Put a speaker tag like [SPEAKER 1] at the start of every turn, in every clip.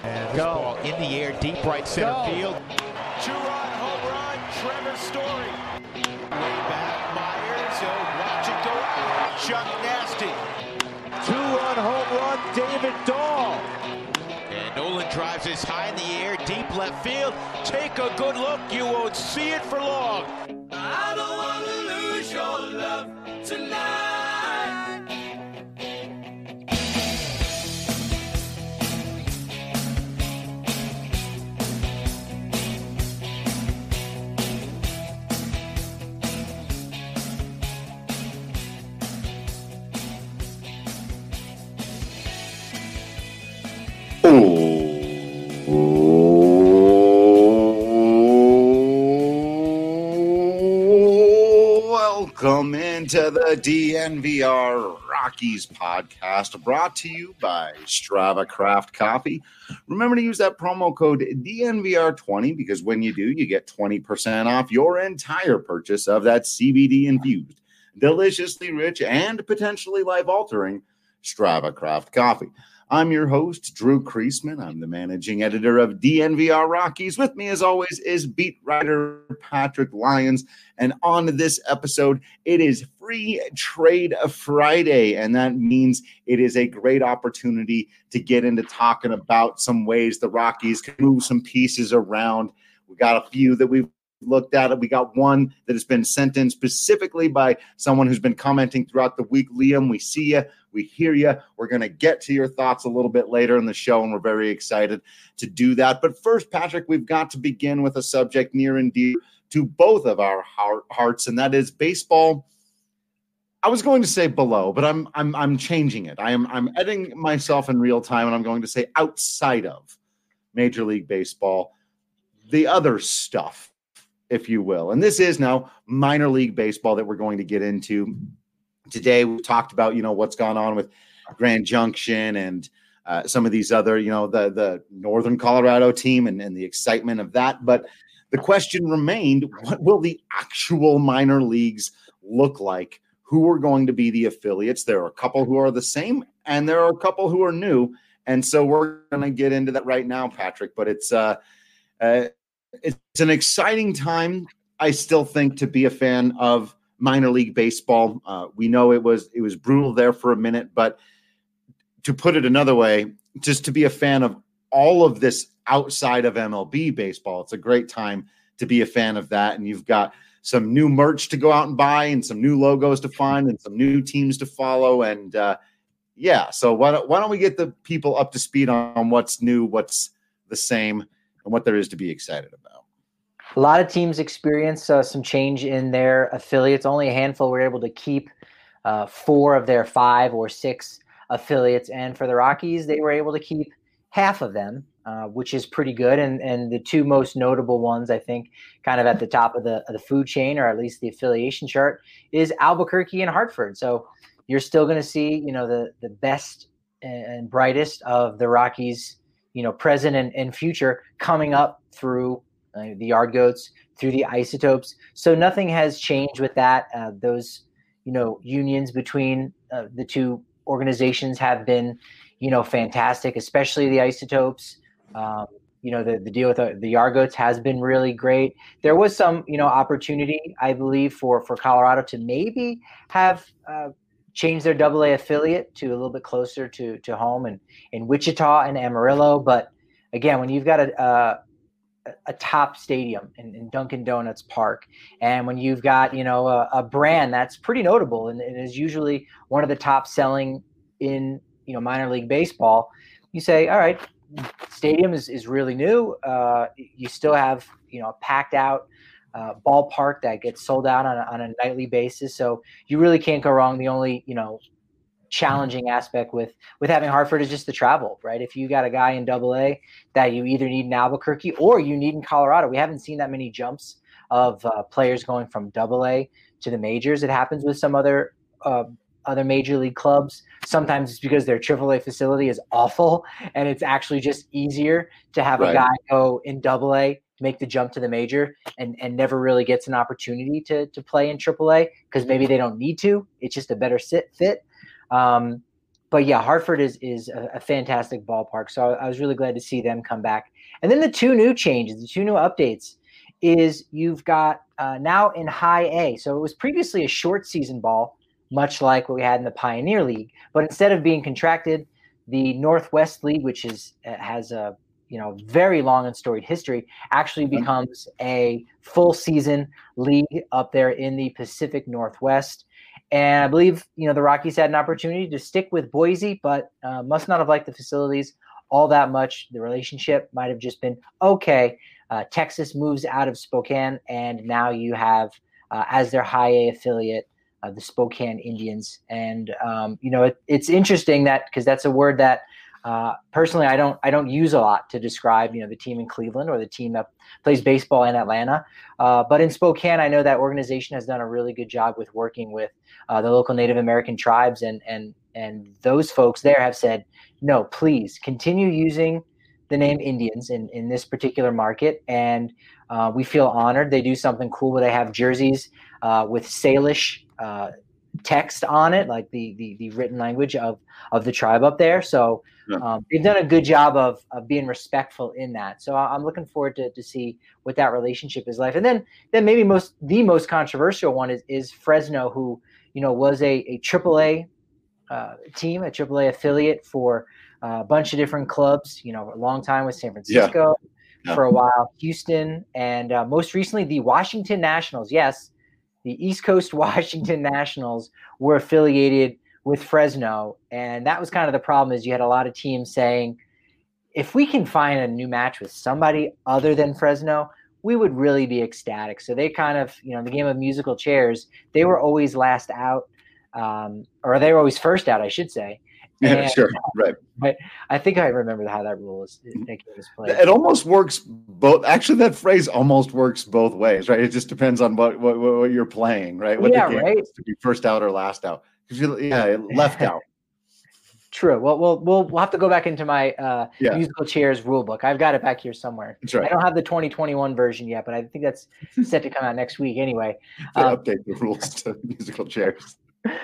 [SPEAKER 1] And this ball in the air, deep right center field.
[SPEAKER 2] Two-run home run, Trevor Story. Way back, Myers, watch it go out. Chuck Nasty.
[SPEAKER 3] Two-run home run, David Dahl.
[SPEAKER 1] And Nolan drives this high in the air, deep left field. Take a good look, you won't see it for long.
[SPEAKER 4] I don't want to lose your love tonight.
[SPEAKER 5] Welcome into the DNVR Rockies podcast, brought to you by Strava Craft Coffee. Remember to use that promo code DNVR20 because when you do, you get 20% off your entire purchase of that CBD-infused, deliciously rich, and potentially life-altering Strava Craft Coffee. I'm your host, Drew Kreisman. I'm the managing editor of DNVR Rockies. With me, as always, is beat writer Patrick Lyons. And on this episode, it is Free Trade Friday, and that means it is a great opportunity to get into talking about some ways the Rockies can move some pieces around. We got a few that we've looked at it. We got one that has been sent in specifically by someone who's been commenting throughout the week. Liam, we see you. We hear you. We're going to get to your thoughts a little bit later in the show, and we're very excited to do that. But first, Patrick, we've got to begin with a subject near and dear to both of our hearts, and that is baseball. I was going to say below, but I'm changing it. I'm editing myself in real time, and I'm going to say outside of Major League Baseball, the other stuff, if you will. And this is now minor league baseball that we're going to get into. Today, we talked about, what's gone on with Grand Junction and some of these other, the Northern Colorado team and the excitement of that. But the question remained, what will the actual minor leagues look like? Who are going to be the affiliates? There are a couple who are the same, and there are a couple who are new. And so we're going to get into that right now, Patrick. But it's an exciting time, I still think, to be a fan of minor league baseball. We know it was brutal there for a minute, but to put it another way, just to be a fan of all of this outside of MLB baseball, it's a great time to be a fan of that. And you've got some new merch to go out and buy and some new logos to find and some new teams to follow. And so why don't we get the people up to speed on what's new, what's the same, and what there is to be excited about.
[SPEAKER 6] A lot of teams experience some change in their affiliates. Only a handful were able to keep 4 of their 5 or 6 affiliates. And for the Rockies, they were able to keep half of them, which is pretty good. And the 2 most notable ones, I think, kind of at the top of the food chain, or at least the affiliation chart, is Albuquerque and Hartford. So you're still going to see, the best and brightest of the Rockies, present and future coming up through the Yard Goats, through the Isotopes. So nothing has changed with that. Those, unions between the 2 organizations have been, fantastic, especially the Isotopes. The deal with the Yard Goats has been really great. There was some, opportunity, I believe, for Colorado to maybe have changed their AA affiliate to a little bit closer to home and in Wichita and Amarillo. But again, when you've got a top stadium in Dunkin' Donuts Park, and when you've got a brand that's pretty notable and is usually one of the top selling in minor league baseball, you say, all right, stadium is really new. You still have a packed out ballpark that gets sold out on a nightly basis, so you really can't go wrong. The only challenging aspect with having Hartford is just the travel, right? If you got a guy in AA that you either need in Albuquerque or you need in Colorado, we haven't seen that many jumps of players going from AA to the majors. It happens with some other major league clubs. Sometimes it's because their AAA facility is awful and it's actually just easier to have a guy go in AA, make the jump to the major and never really gets an opportunity to play in AAA because maybe they don't need to. It's just a better fit. but yeah, Hartford is a fantastic ballpark. So I was really glad to see them come back. And then the two new changes, the two new updates is you've got now in High A. So it was previously a short season ball, much like what we had in the Pioneer League. But instead of being contracted, the Northwest League, which has a very long and storied history, actually becomes a full season league up there in the Pacific Northwest. And I believe, the Rockies had an opportunity to stick with Boise, but must not have liked the facilities all that much. The relationship might have just been okay. Texas moves out of Spokane, and now you have, as their High A affiliate, the Spokane Indians. And, it's interesting that because that's a word that personally I don't use a lot to describe, the team in Cleveland or the team that plays baseball in Atlanta. But in Spokane, I know that organization has done a really good job with working with the local Native American tribes, and those folks there have said, no, please continue using the name Indians in this particular market. And we feel honored. They do something cool where they have jerseys with Salish text on it, like the written language of the tribe up there. So they've done a good job of being respectful in that. So I'm looking forward to see what that relationship is like. And then maybe the most controversial one is Fresno, who was a AAA team, a AAA affiliate for a bunch of different clubs. A long time with San Francisco, for a while Houston, and most recently the Washington Nationals. Yes, the East Coast Washington Nationals were affiliated with Fresno, and that was kind of the problem. Is you had a lot of teams saying, if we can find a new match with somebody other than Fresno, we would really be ecstatic. So they kind of, the game of musical chairs, they were always last out, or they were always first out, I should say.
[SPEAKER 5] Yeah, sure, right.
[SPEAKER 6] But I think I remember how that rule is played.
[SPEAKER 5] It almost works both. Actually, that phrase almost works both ways, right? It just depends on what you're playing, right? What the game is, to be first out or last out. Left out.
[SPEAKER 6] True. Well, we'll have to go back into my musical chairs rule book. I've got it back here somewhere.
[SPEAKER 5] That's right.
[SPEAKER 6] I don't have the 2021 version yet, but I think that's set to come out next week anyway.
[SPEAKER 5] Update the rules to musical chairs.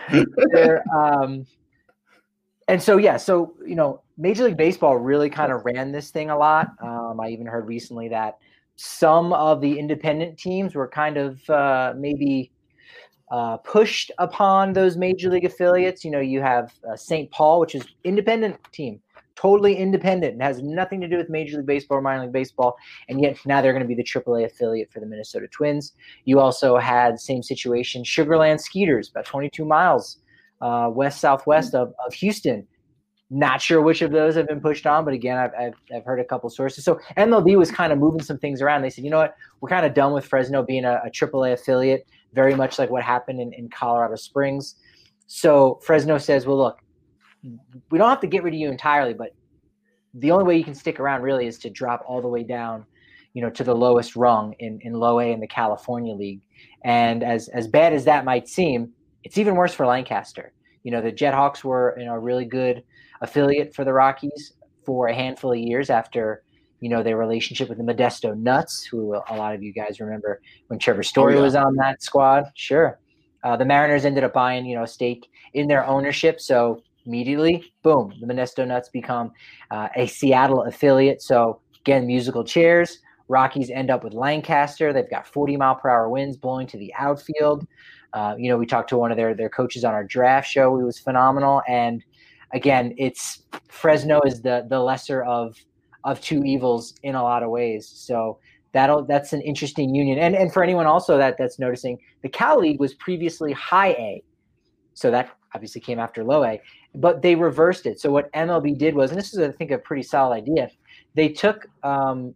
[SPEAKER 6] And so, Major League Baseball really kind of ran this thing a lot. I even heard recently that some of the independent teams were kind of maybe pushed upon those Major League affiliates. You have St. Paul, which is independent team, totally independent and has nothing to do with Major League Baseball or minor league baseball. And yet now they're going to be the AAA affiliate for the Minnesota Twins. You also had same situation, Sugarland Skeeters, about 22 miles west-southwest of Houston. Not sure which of those have been pushed on, but again, I've heard a couple sources. So MLB was kind of moving some things around. They said, you know what, we're kind of done with Fresno being a AAA affiliate, very much like what happened in Colorado Springs. So Fresno says, well, look, we don't have to get rid of you entirely, but the only way you can stick around really is to drop all the way down, to the lowest rung in low A in the California League. And as bad as that might seem, it's even worse for Lancaster. The Jethawks were a really good affiliate for the Rockies for a handful of years after, their relationship with the Modesto Nuts, who a lot of you guys remember when Trevor Story was on that squad. Sure. The Mariners ended up buying, a stake in their ownership. So immediately, boom, the Modesto Nuts become a Seattle affiliate. So again, musical chairs. Rockies end up with Lancaster. They've got 40-mile-per-hour winds blowing to the outfield. We talked to one of their coaches on our draft show. He was phenomenal. And again, it's Fresno is the lesser of two evils in a lot of ways. So that's an interesting union. And for anyone also that's noticing, the Cal League was previously High A. So that obviously came after Low A, but they reversed it. So what MLB did was, and this is, I think, a pretty solid idea, they took all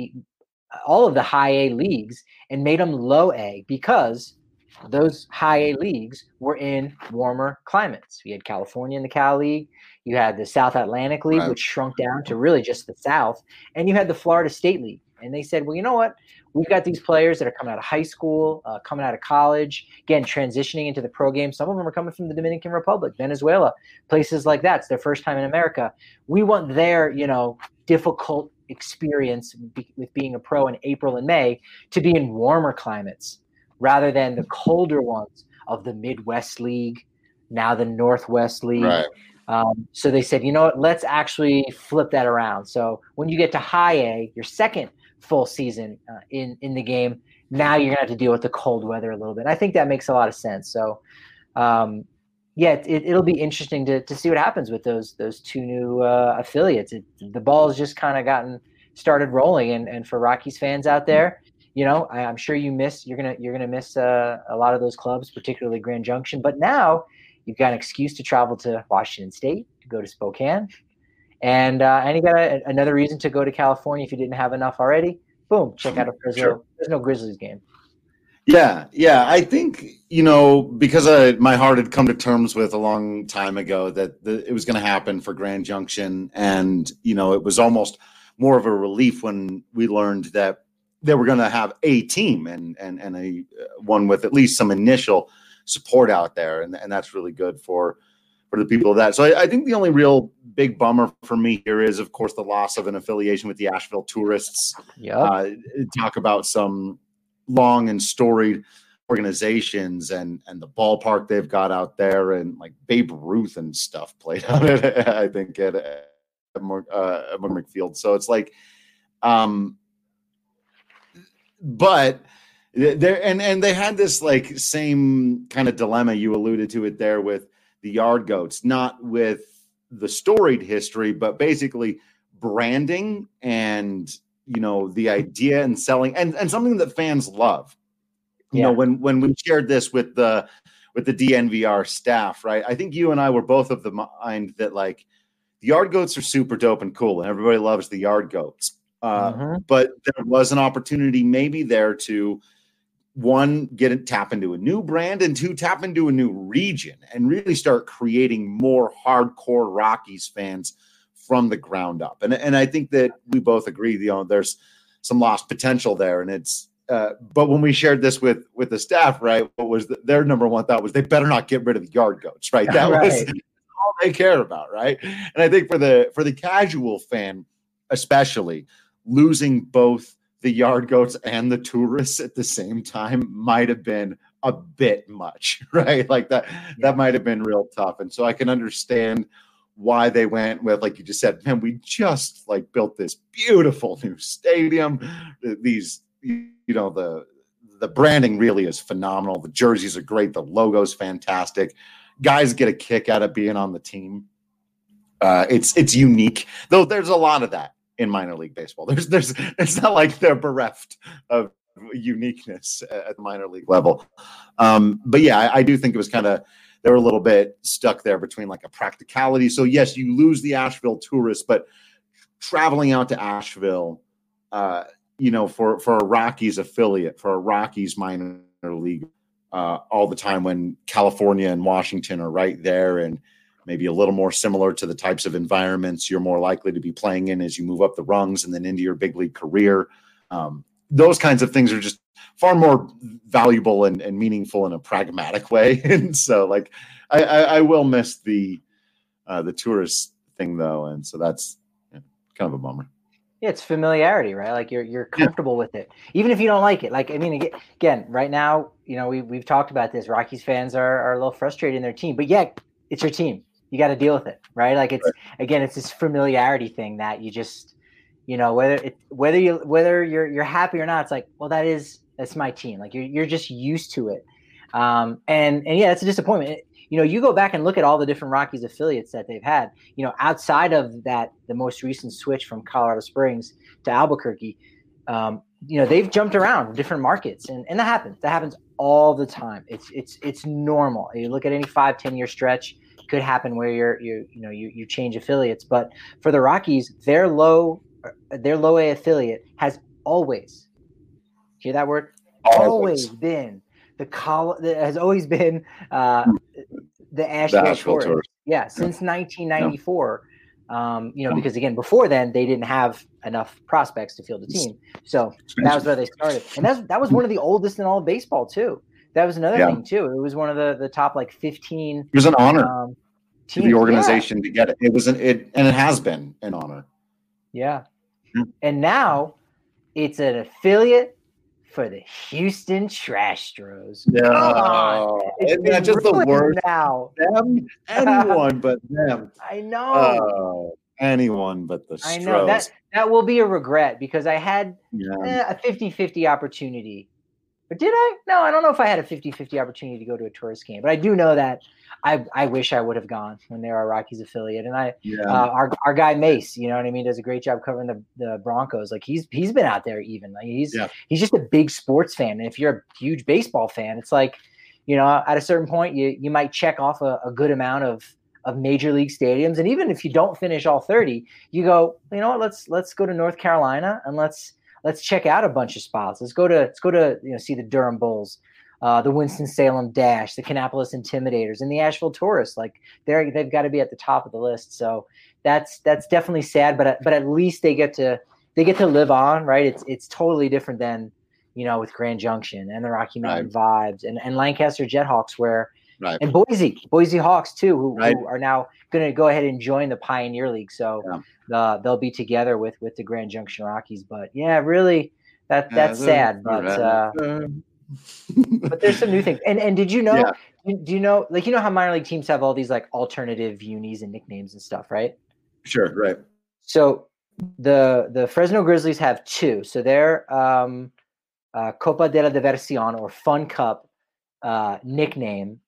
[SPEAKER 6] of the High A leagues and made them Low A because those High A leagues were in warmer climates. You had California in the Cal League. You had the South Atlantic League, which shrunk down to really just the South. And you had the Florida State League. And they said, well, you know what? We've got these players that are coming out of high school, coming out of college, again, transitioning into the pro game. Some of them are coming from the Dominican Republic, Venezuela, places like that. It's their first time in America. We want their, difficult experience with being a pro in April and May to be in warmer climates, rather than the colder ones of the Midwest League, now the Northwest League.
[SPEAKER 5] Right.
[SPEAKER 6] So they said, you know what, let's actually flip that around. So when you get to high A, your second full season in the game, now you're going to have to deal with the cold weather a little bit. I think that makes a lot of sense. So, it'll be interesting to see what happens with those two new affiliates. The ball has just kind of started rolling, and for Rockies fans out there, I'm sure you're gonna miss a lot of those clubs, particularly Grand Junction. But now you've got an excuse to travel to Washington State, to go to Spokane, and you got another reason to go to California if you didn't have enough already. Boom, check out a Fresno Grizzlies game.
[SPEAKER 5] Yeah. I think, because my heart had come to terms with a long time ago that it was going to happen for Grand Junction. And, it was almost more of a relief when we learned that they were going to have a team and a one with at least some initial support out there. And that's really good for the people of that. So I think the only real big bummer for me here is, of course, the loss of an affiliation with the Asheville Tourists.
[SPEAKER 6] Yeah.
[SPEAKER 5] Talk about some long and storied organizations and the ballpark they've got out there, and like Babe Ruth and stuff played out at, I think, at McField. So it's like, but there, and they had this like same kind of dilemma. You alluded to it there with the Yard Goats, not with the storied history, but basically branding and, the idea and selling and something that fans love. When we shared this with the DNVR staff, right? I think you and I were both of the mind that like the Yard Goats are super dope and cool, and everybody loves the Yard Goats. But there was an opportunity maybe there to, one, tap into a new brand, and two, tap into a new region and really start creating more hardcore Rockies fans from the ground up. And I think that we both agree, there's some lost potential there. And it's, but when we shared this with the staff, right, what was their number one thought was they better not get rid of the Yard Goats, right? That was all they care about, right? And I think for the casual fan, especially, losing both the Yard Goats and the Tourists at the same time might have been a bit much, right? Like that might have been real tough. And so I can understand why they went with, like you just said, man, we just like built this beautiful new stadium. These, the branding really is phenomenal. The jerseys are great. The logo's fantastic. Guys get a kick out of being on the team. It's unique, though. There's a lot of that in minor league baseball. It's not like they're bereft of uniqueness at the minor league level. But yeah, I do think it was they were a little bit stuck there between like a practicality. So yes, you lose the Asheville Tourists, but traveling out to Asheville, for a Rockies affiliate, for a Rockies minor league, all the time when California and Washington are right there, and maybe a little more similar to the types of environments you're more likely to be playing in as you move up the rungs and then into your big league career. Those kinds of things are just far more valuable and meaningful in a pragmatic way. And so like, I will miss the tourist thing though. And so that's kind of a bummer.
[SPEAKER 6] Yeah, it's familiarity, right? Like you're comfortable with it, even if you don't like it. Like, I mean, again, right now, we've talked about this. Rockies fans are a little frustrated in their team, but yeah, it's your team. You got to deal with it, right? Like it's this familiarity thing that you just, whether you're happy or not, it's like, well, that's my team. Like you're just used to it. And yeah, it's a disappointment. You go back and look at all the different Rockies affiliates that they've had, outside of that, the most recent switch from Colorado Springs to Albuquerque, they've jumped around different markets, and that happens all the time. It's normal. You look at any 5-10 year stretch, it could happen where you change affiliates. But for the Rockies, their low A affiliate has always, hear that word? Always been has always been the Asheville Tourists. Yeah, since 1994. Because again, before then they didn't have enough prospects to field a team, so that was where they started, and that was one of the oldest in all of baseball too. That was another thing too. It was one of the top like 15. It
[SPEAKER 5] was an honor to the organization to get it. It was and it has been an honor.
[SPEAKER 6] Yeah, and now it's an affiliate for the Houston Trastros.
[SPEAKER 5] No,
[SPEAKER 6] Come on.
[SPEAKER 5] isn't that just the
[SPEAKER 6] ruined
[SPEAKER 5] worst?
[SPEAKER 6] now.
[SPEAKER 5] Them, anyone but them.
[SPEAKER 6] I know.
[SPEAKER 5] Anyone but the Stros.
[SPEAKER 6] I know that will be a regret because I had
[SPEAKER 5] Yeah.
[SPEAKER 6] a 50-50 opportunity. But did I? No, I don't know if I had a 50-50 opportunity to go to a tourist game. But I do know that I wish I would have gone when they were a Rockies affiliate. And our guy Mace, you know what I mean, does a great job covering the Broncos. Like he's been out there even. Like he's just a big sports fan. And if you're a huge baseball fan, it's like, you know, at a certain point you might check off a good amount of major league stadiums. And even if you don't finish all 30, you go, you know what, let's go to North Carolina and let's check out a bunch of spots. Let's go to see the Durham Bulls, the Winston-Salem Dash, the Kannapolis Intimidators, and the Asheville Tourists. Like they've got to be at the top of the list. So that's definitely sad, but at least they get to live on, right? It's totally different than, you know, with Grand Junction and the Rocky Mountain Vibes and Lancaster Jethawks where and Boise Hawks too, who are now going to go ahead and join the Pioneer League. So they'll be together with the Grand Junction Rockies. But yeah, really, that's sad. But but there's some new things. And did you know? Do you know? Like, you know how minor league teams have all these like alternative unis and nicknames and stuff, right?
[SPEAKER 5] Sure, right.
[SPEAKER 6] So the Fresno Grizzlies have two. So they're Copa de la Diversión or Fun Cup. Nickname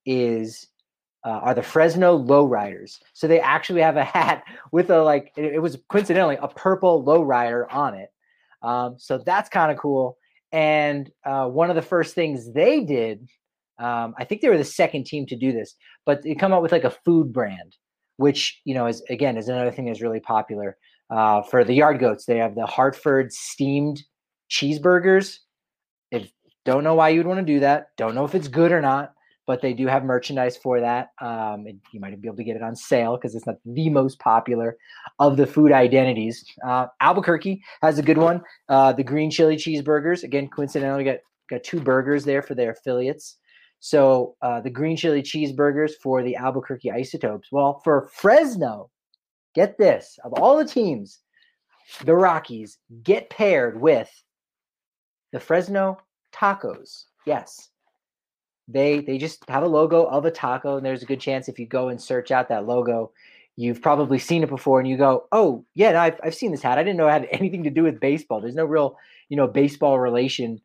[SPEAKER 6] are the Fresno Lowriders. So they actually have a hat with it was coincidentally a purple lowrider on it. So that's kind of cool. And one of the first things they did, I think they were the second team to do this, but they come up with like a food brand, which, you know, is another thing that's really popular. For the Yard Goats, they have the Hartford steamed cheeseburgers. Don't know why you'd want to do that. Don't know if it's good or not, but they do have merchandise for that. You might be able to get it on sale because it's not the most popular of the food identities. Albuquerque has a good one. The green chili cheeseburgers. Again, coincidentally, got two burgers there for their affiliates. So the green chili cheeseburgers for the Albuquerque Isotopes. Well, for Fresno, get this. Of all the teams, the Rockies get paired with the Fresno Tacos. Yes. They just have a logo of a taco, and there's a good chance if you go and search out that logo, you've probably seen it before and you go, oh yeah, no, I've seen this hat. I didn't know it had anything to do with baseball. There's no real, you know, baseball relation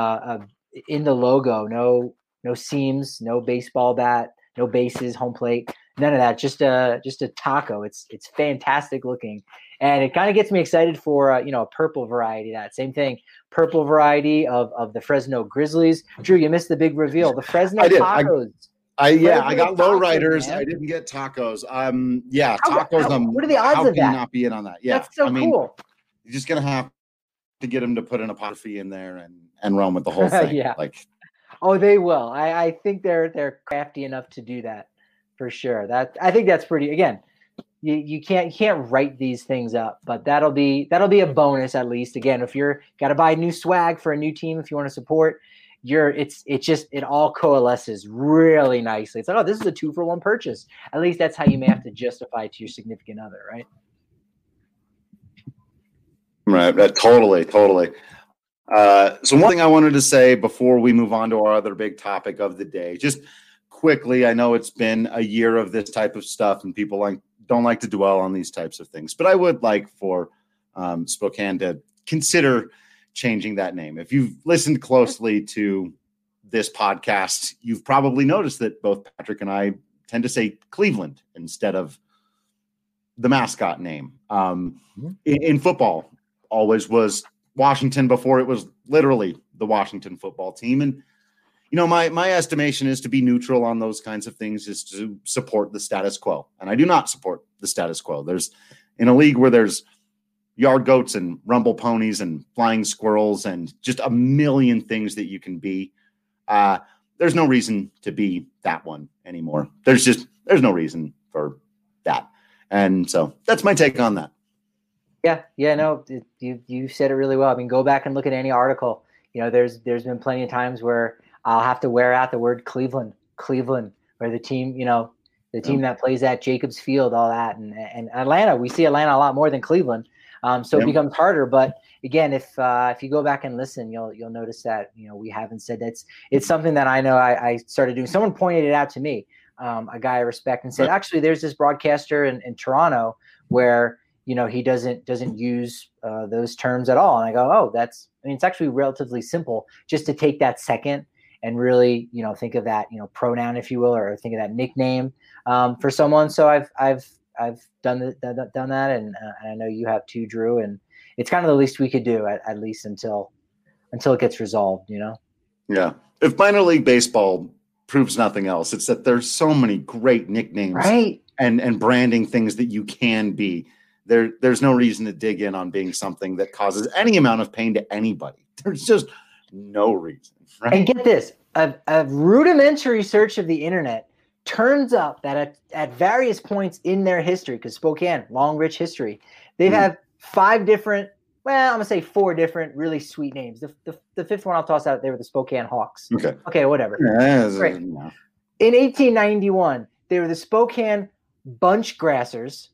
[SPEAKER 6] in the logo. No seams, no baseball bat, no bases, home plate, none of that. Just a taco. It's fantastic looking. And it kind of gets me excited for, a purple variety. That same thing, purple variety of the Fresno Grizzlies. Drew, you missed the big reveal. The Fresno Tacos.
[SPEAKER 5] I got lowriders. I didn't get tacos. Tacos.
[SPEAKER 6] What are the odds
[SPEAKER 5] how
[SPEAKER 6] of
[SPEAKER 5] can
[SPEAKER 6] that?
[SPEAKER 5] You not be in on that? Yeah,
[SPEAKER 6] that's so cool.
[SPEAKER 5] You're just gonna have to get them to put an apostrophe in there and run with the whole thing.
[SPEAKER 6] Yeah. They will. I think they're crafty enough to do that for sure. I think that's pretty. Again, you can't write these things up, but that'll be a bonus at least. Again, if you're got to buy new swag for a new team, if you want to support, it all coalesces really nicely. It's like, oh, this is a 2-for-1 purchase. At least that's how you may have to justify it to your significant other, right?
[SPEAKER 5] Right. Totally. So one thing I wanted to say before we move on to our other big topic of the day, just quickly, I know it's been a year of this type of stuff and people don't like to dwell on these types of things, but I would like for Spokane to consider changing that name. If you've listened closely to this podcast, you've probably noticed that both Patrick and I tend to say Cleveland instead of the mascot name. In football, always was Washington before it was literally the Washington football team. And, my estimation is to be neutral on those kinds of things is to support the status quo. And I do not support the status quo. There's in a league where there's yard goats and rumble ponies and flying squirrels and just a million things that you can be. There's no reason to be that one anymore. There's no reason for that. And so that's my take on that.
[SPEAKER 6] Yeah, no, you said it really well. I mean, go back and look at any article. There's been plenty of times where I'll have to wear out the word Cleveland, where the team, the team that plays at Jacobs Field, all that. And Atlanta, we see Atlanta a lot more than Cleveland. So it becomes harder. But again, if you go back and listen, you'll notice that we haven't said that. It's something that I know I started doing. Someone pointed it out to me, a guy I respect, and said, actually, there's this broadcaster in Toronto where he doesn't use those terms at all. And I go, oh, it's actually relatively simple just to take that second and really, think of that, pronoun, if you will, or think of that nickname for someone. So I've done that, and I know you have too, Drew. And it's kind of the least we could do, at least until it gets resolved.
[SPEAKER 5] Yeah. If minor league baseball proves nothing else, it's that there's so many great nicknames,
[SPEAKER 6] right?
[SPEAKER 5] And branding things that you can be. There's no reason to dig in on being something that causes any amount of pain to anybody. There's just no reason. Right?
[SPEAKER 6] And get this, a rudimentary search of the internet turns up that at various points in their history, because Spokane, long, rich history, they've had 5 different, well, I'm going to say 4 different really sweet names. The fifth one I'll toss out, they were the Spokane Hawks. Okay, whatever.
[SPEAKER 5] Yeah,
[SPEAKER 6] great. In 1891, they were the Spokane Bunchgrassers.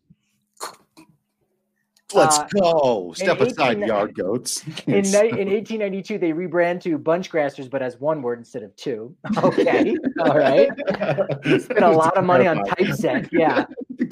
[SPEAKER 5] Let's go. Step aside, yard goats.
[SPEAKER 6] In 1892, they rebrand to Bunchgrassers, but as one word instead of 2. Okay. All right. Spent a lot of money on typeset. Yeah.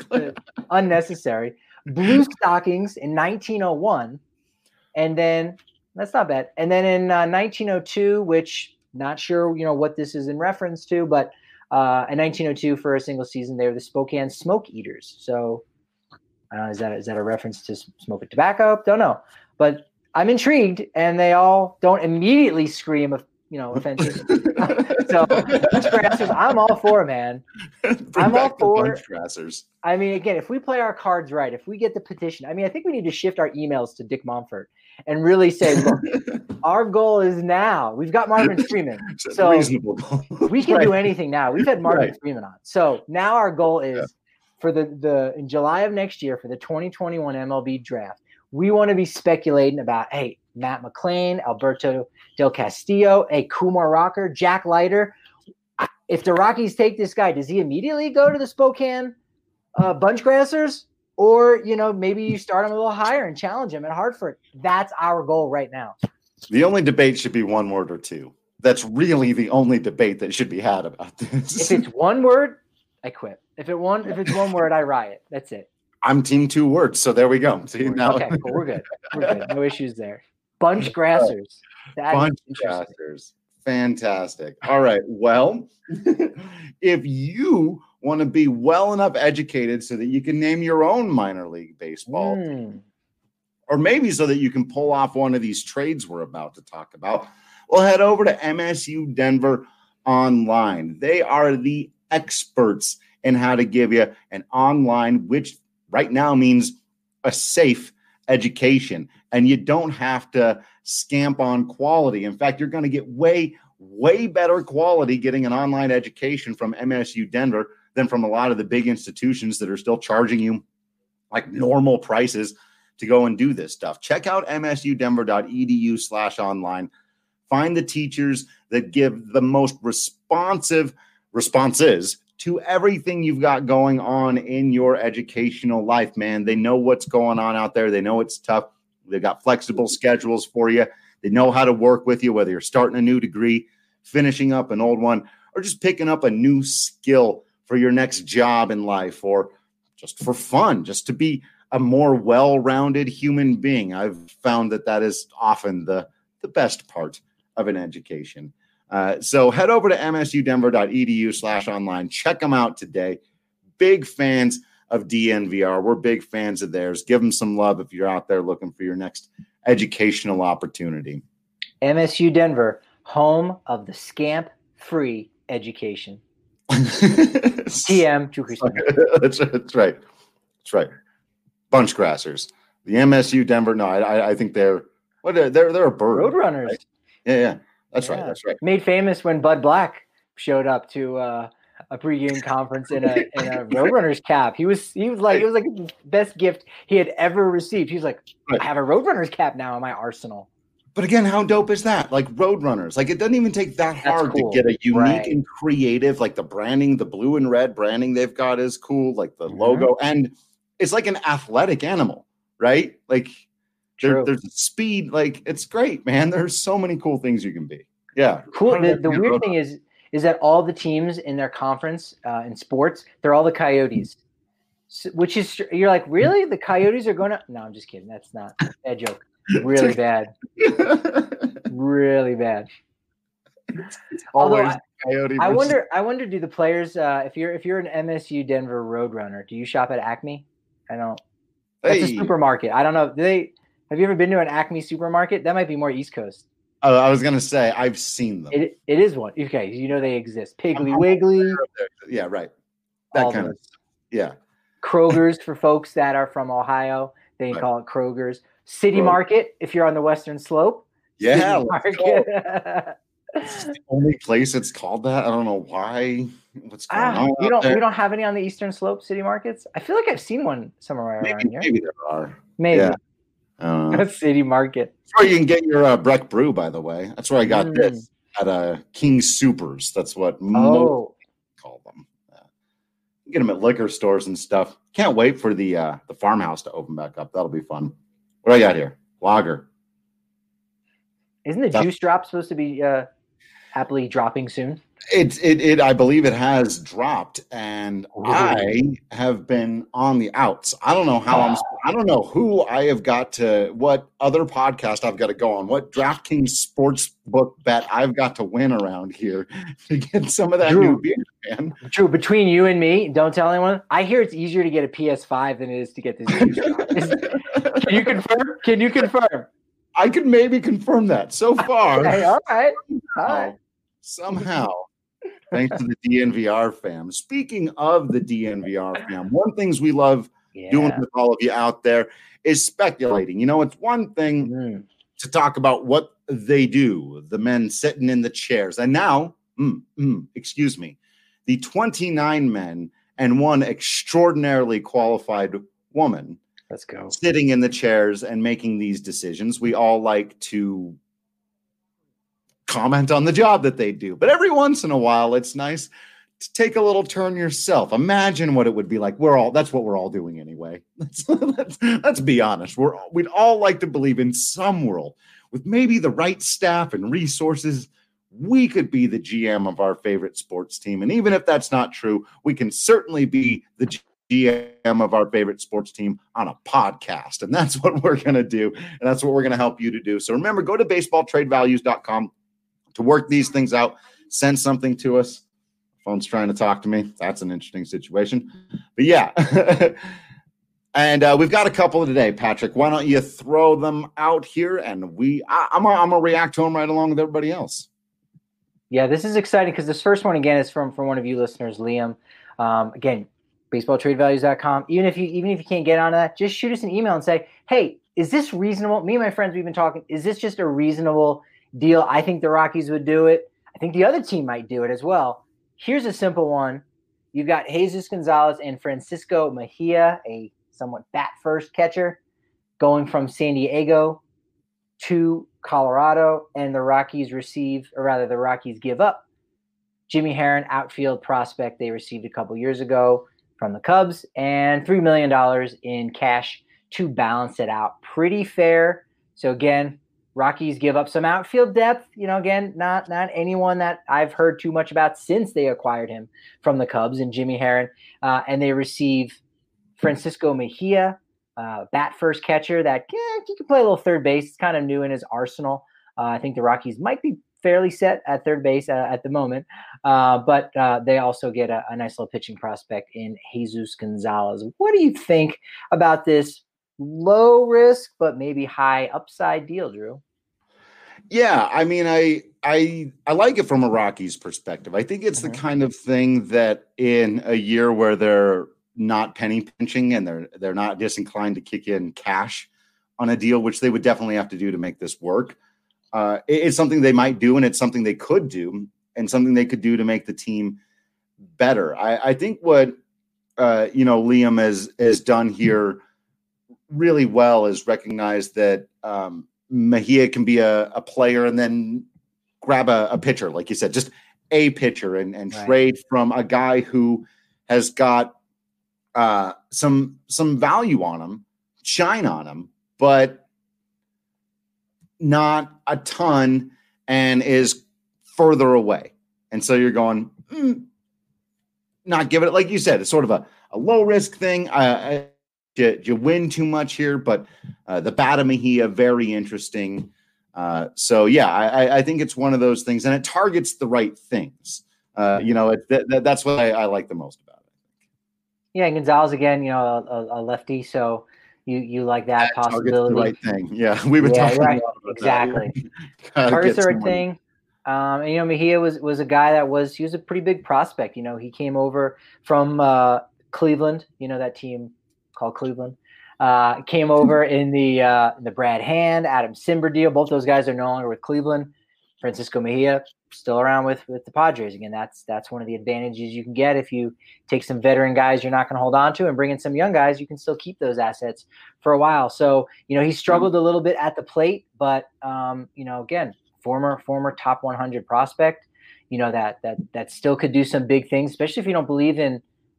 [SPEAKER 6] Unnecessary. Blue Stockings in 1901. And then, that's not bad. And then in 1902, which not sure, what this is in reference to, but in 1902 for a single season, they were the Spokane Smoke Eaters. So, is that a reference to smoking tobacco? Don't know, but I'm intrigued, and they all don't immediately scream of offenses. So Bunchgrassers, I'm all for, man. I'm all for
[SPEAKER 5] Bunchgrassers.
[SPEAKER 6] I mean, again, if we play our cards right, if we get the petition, I think we need to shift our emails to Dick Monfort and really say, look, our goal is now. We've got Marvin Freeman, so
[SPEAKER 5] reasonable.
[SPEAKER 6] We can do anything now. We've had Marvin Freeman on, so now our goal is. For the in July of next year for the 2021 MLB draft, we want to be speculating about, hey, Matt McLean, Alberto Del Castillo, Kumar Rocker, Jack Leiter. If the Rockies take this guy, does he immediately go to the Spokane Bunchgrassers? Or, maybe you start him a little higher and challenge him at Hartford. That's our goal right now.
[SPEAKER 5] The only debate should be one word or two. That's really the only debate that should be had about this.
[SPEAKER 6] If it's one word, I quit. If it's one word, I riot. That's it.
[SPEAKER 5] I'm team 2 words, so there we go. See, now.
[SPEAKER 6] Okay, cool. We're good. No issues there. Bunchgrassers.
[SPEAKER 5] Bunchgrassers. Fantastic. All right. Well, if you want to be well enough educated so that you can name your own minor league baseball team, or maybe so that you can pull off one of these trades we're about to talk about, well, head over to MSU Denver Online. They are the experts in how to give you an online, which right now means a safe education, and you don't have to scamp on quality. In fact, you're going to get way better quality getting an online education from MSU Denver than from a lot of the big institutions that are still charging you like normal prices to go and do this stuff. Check out msudenver.edu/online. Find the teachers that give the most responses to everything you've got going on in your educational life, man. They know what's going on out there. They know it's tough. They've got flexible schedules for you. They know how to work with you, whether you're starting a new degree, finishing up an old one, or just picking up a new skill for your next job in life, or just for fun, just to be a more well-rounded human being. I've found that is often the best part of an education. So head over to msudenver.edu/online. Check them out today. Big fans of DNVR. We're big fans of theirs. Give them some love if you're out there looking for your next educational opportunity.
[SPEAKER 6] MSU Denver, home of the scamp-free education. TM, Drew Creasman.
[SPEAKER 5] That's right. That's right. Bunchgrassers. The MSU Denver. No, I think they're a bird.
[SPEAKER 6] Roadrunners.
[SPEAKER 5] Right? Yeah. That's right. That's right.
[SPEAKER 6] Made famous when Bud Black showed up to a pregame conference in a Roadrunners cap. It was like the best gift he had ever received. He's like, I have a Roadrunners cap now in my arsenal.
[SPEAKER 5] But again, how dope is that? Like Roadrunners. Like it doesn't even take that hard to get a unique and creative, like the branding, the blue and red branding they've got is cool. Like the logo, and it's like an athletic animal, right? Like
[SPEAKER 6] True.
[SPEAKER 5] there's speed. Like it's great, man. There's so many cool things you can be. Yeah.
[SPEAKER 6] Cool. The weird thing is that all the teams in their conference in sports, they're all the Coyotes, which is you're like, really? The Coyotes are going to? No, I'm just kidding. That's not bad joke. Really bad. Really bad. Although I wonder, do the players, if you're an MSU Denver Roadrunner, do you shop at Acme? I don't. That's a supermarket. I don't know. Have you ever been to an Acme supermarket? That might be more East Coast.
[SPEAKER 5] Oh, I was gonna say I've seen them.
[SPEAKER 6] It is one. Okay, you know they exist. Piggly Wiggly.
[SPEAKER 5] Yeah, right. That kind of stuff. Yeah.
[SPEAKER 6] Kroger's for folks that are from Ohio. They call it Kroger's. City Market if you're on the Western Slope.
[SPEAKER 5] Yeah. It's the only place it's called that. I don't know why. What's going on?
[SPEAKER 6] We don't have any on the Eastern Slope city markets. I feel like I've seen one somewhere around here.
[SPEAKER 5] Maybe there are.
[SPEAKER 6] Maybe. Yeah. City Market.
[SPEAKER 5] That's where you can get your Breck Brew, by the way. That's where I got this at King Supers. That's what most call them. You get them at liquor stores and stuff. Can't wait for the farmhouse to open back up. That'll be fun. What do I got here? Lager.
[SPEAKER 6] Isn't the juice drop supposed to be happily dropping soon?
[SPEAKER 5] It I believe it has dropped, and I have been on the outs. I don't know how I don't know who I have got to, what other podcast I've got to go on, what DraftKings sportsbook bet I've got to win around here to get some of that new beer, man.
[SPEAKER 6] Drew, between you and me, don't tell anyone. I hear it's easier to get a PS5 than it is to get this juice drop. Can you confirm? Can you confirm?
[SPEAKER 5] I could maybe confirm that. So far,
[SPEAKER 6] okay, all right.
[SPEAKER 5] Somehow, thanks to the DNVR fam. Speaking of the DNVR fam, one things we love doing with all of you out there is speculating. You know, it's one thing to talk about what they do, the men sitting in the chairs, and now, excuse me, the 29 men and one extraordinarily qualified woman.
[SPEAKER 6] Let's go.
[SPEAKER 5] Sitting in the chairs and making these decisions. We all like to comment on the job that they do, but every once in a while, it's nice to take a little turn yourself. Imagine what it would be like. That's what we're all doing anyway. Let's be honest. We'd all like to believe in some world with maybe the right staff and resources, we could be the GM of our favorite sports team. And even if that's not true, we can certainly be the GM of our favorite sports team on a podcast. And that's what we're going to do. And that's what we're going to help you to do. So remember, go to baseballtradevalues.com to work these things out. Send something to us. Phone's trying to talk to me. That's an interesting situation. But yeah. And we've got a couple today, Patrick. Why don't you throw them out here? And I'm gonna react to them right along with everybody else.
[SPEAKER 6] Yeah, this is exciting because this first one, again, is from one of you listeners, Liam. Again, baseballtradevalues.com. Even if you can't get on that, just shoot us an email and say, hey, is this reasonable? Me and my friends, we've been talking. Is this just a reasonable deal? I think the Rockies would do it. I think the other team might do it as well. Here's a simple one. You've got Jesus Gonzalez and Francisco Mejia, a somewhat bat-first catcher, going from San Diego to Colorado, and the Rockies give up Jimmy Herron, outfield prospect they received a couple years ago from the Cubs, and $3 million in cash to balance it out. Pretty fair. So again, Rockies give up some outfield depth. You know, again, not anyone that I've heard too much about since they acquired him from the Cubs and Jimmy Herron, and they receive Francisco Mejia, bat-first catcher that he can play a little third base. It's kind of new in his arsenal. I think the Rockies might be fairly set at third base at the moment, but they also get a nice little pitching prospect in Jesus Gonzalez. What do you think about this low risk but maybe high upside deal, Drew?
[SPEAKER 5] Yeah, I mean, I like it from a Rockies perspective. I think it's the kind of thing that in a year where they're not penny pinching and they're not disinclined to kick in cash on a deal, which they would definitely have to do to make this work. It's something they might do, and it's something they could do, and something they could do to make the team better. I think what Liam has done here really well is recognize that Mejia can be a player and then grab a pitcher, like you said, just a pitcher and trade from a guy who has got some value on him shine on him, but not a ton, and is further away. And so you're going, not give it, like you said, it's sort of a low risk thing. You win too much here, but the Bata Mejia, very interesting. So yeah, I think it's one of those things, and it targets the right things. That's what I like the most about it.
[SPEAKER 6] Yeah, and Gonzalez again, a lefty, so you like that possibility.
[SPEAKER 5] The right thing. Yeah, we've been talking about
[SPEAKER 6] exactly. Targets the right thing. And Mejia was a guy he was a pretty big prospect. He came over from Cleveland. That team called Cleveland. Came over in the Brad Hand, Adam Simber deal. Both those guys are no longer with Cleveland. Francisco Mejia still around with the Padres. Again, that's one of the advantages you can get if you take some veteran guys you're not going to hold on to and bring in some young guys. You can still keep those assets for a while. So he struggled a little bit at the plate, but again, former top 100 prospect. That still could do some big things, especially if you don't believe in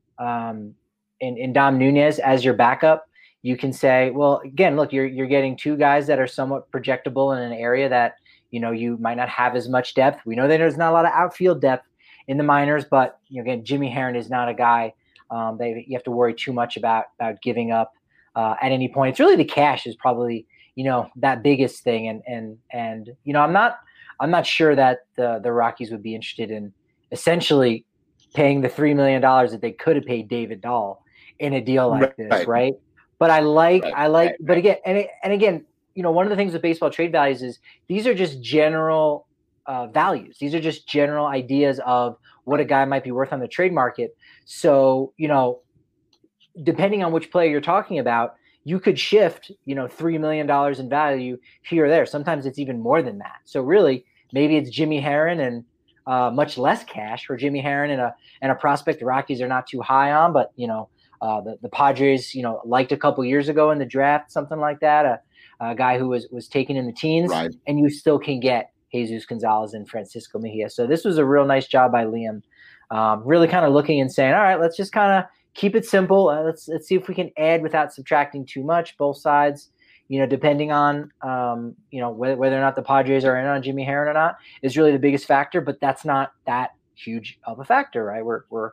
[SPEAKER 6] Dom Nunez as your backup. You can say, well, again, look, you're getting two guys that are somewhat projectable in an area that you might not have as much depth. We know that there's not a lot of outfield depth in the minors, but again, Jimmy Herron is not a guy that you have to worry too much about giving up at any point. It's really the cash is probably that biggest thing, and I'm not sure that the Rockies would be interested in essentially paying the $3 million that they could have paid David Dahl in a deal like this, right? But but again, one of the things with baseball trade values is these are just general values. These are just general ideas of what a guy might be worth on the trade market. So, depending on which player you're talking about, you could shift, $3 million in value here or there. Sometimes it's even more than that. So really, maybe it's Jimmy Herron and much less cash for Jimmy Herron and a prospect the Rockies are not too high on, but the Padres, liked a couple years ago in the draft, something like that, a guy who was taken in the teens, right. And you still can get Jesus Gonzalez and Francisco Mejia. So this was a real nice job by Liam, really kind of looking and saying, all right, let's just kind of keep it simple. Let's see if we can add without subtracting too much. Both sides, depending on whether or not the Padres are in on Jimmy Herron or not is really the biggest factor. But that's not that huge of a factor, right?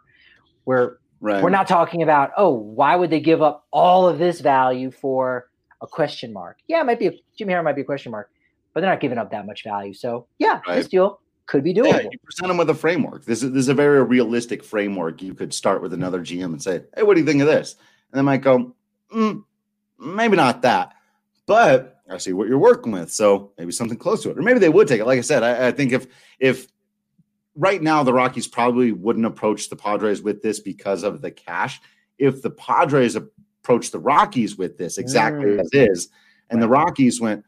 [SPEAKER 6] We're not talking about, why would they give up all of this value for a question mark? Yeah, Jimmy Herron might be a question mark, but they're not giving up that much value. So yeah, This deal could be doable.
[SPEAKER 5] Yeah, you present them with a framework. This is a very realistic framework. You could start with another GM and say, hey, what do you think of this? And they might go, maybe not that, but I see what you're working with. So maybe something close to it. Or maybe they would take it. Like I said, I think if right now the Rockies probably wouldn't approach the Padres with this because of the cash. If the Padres approached the Rockies with this exactly as is, and the Rockies went,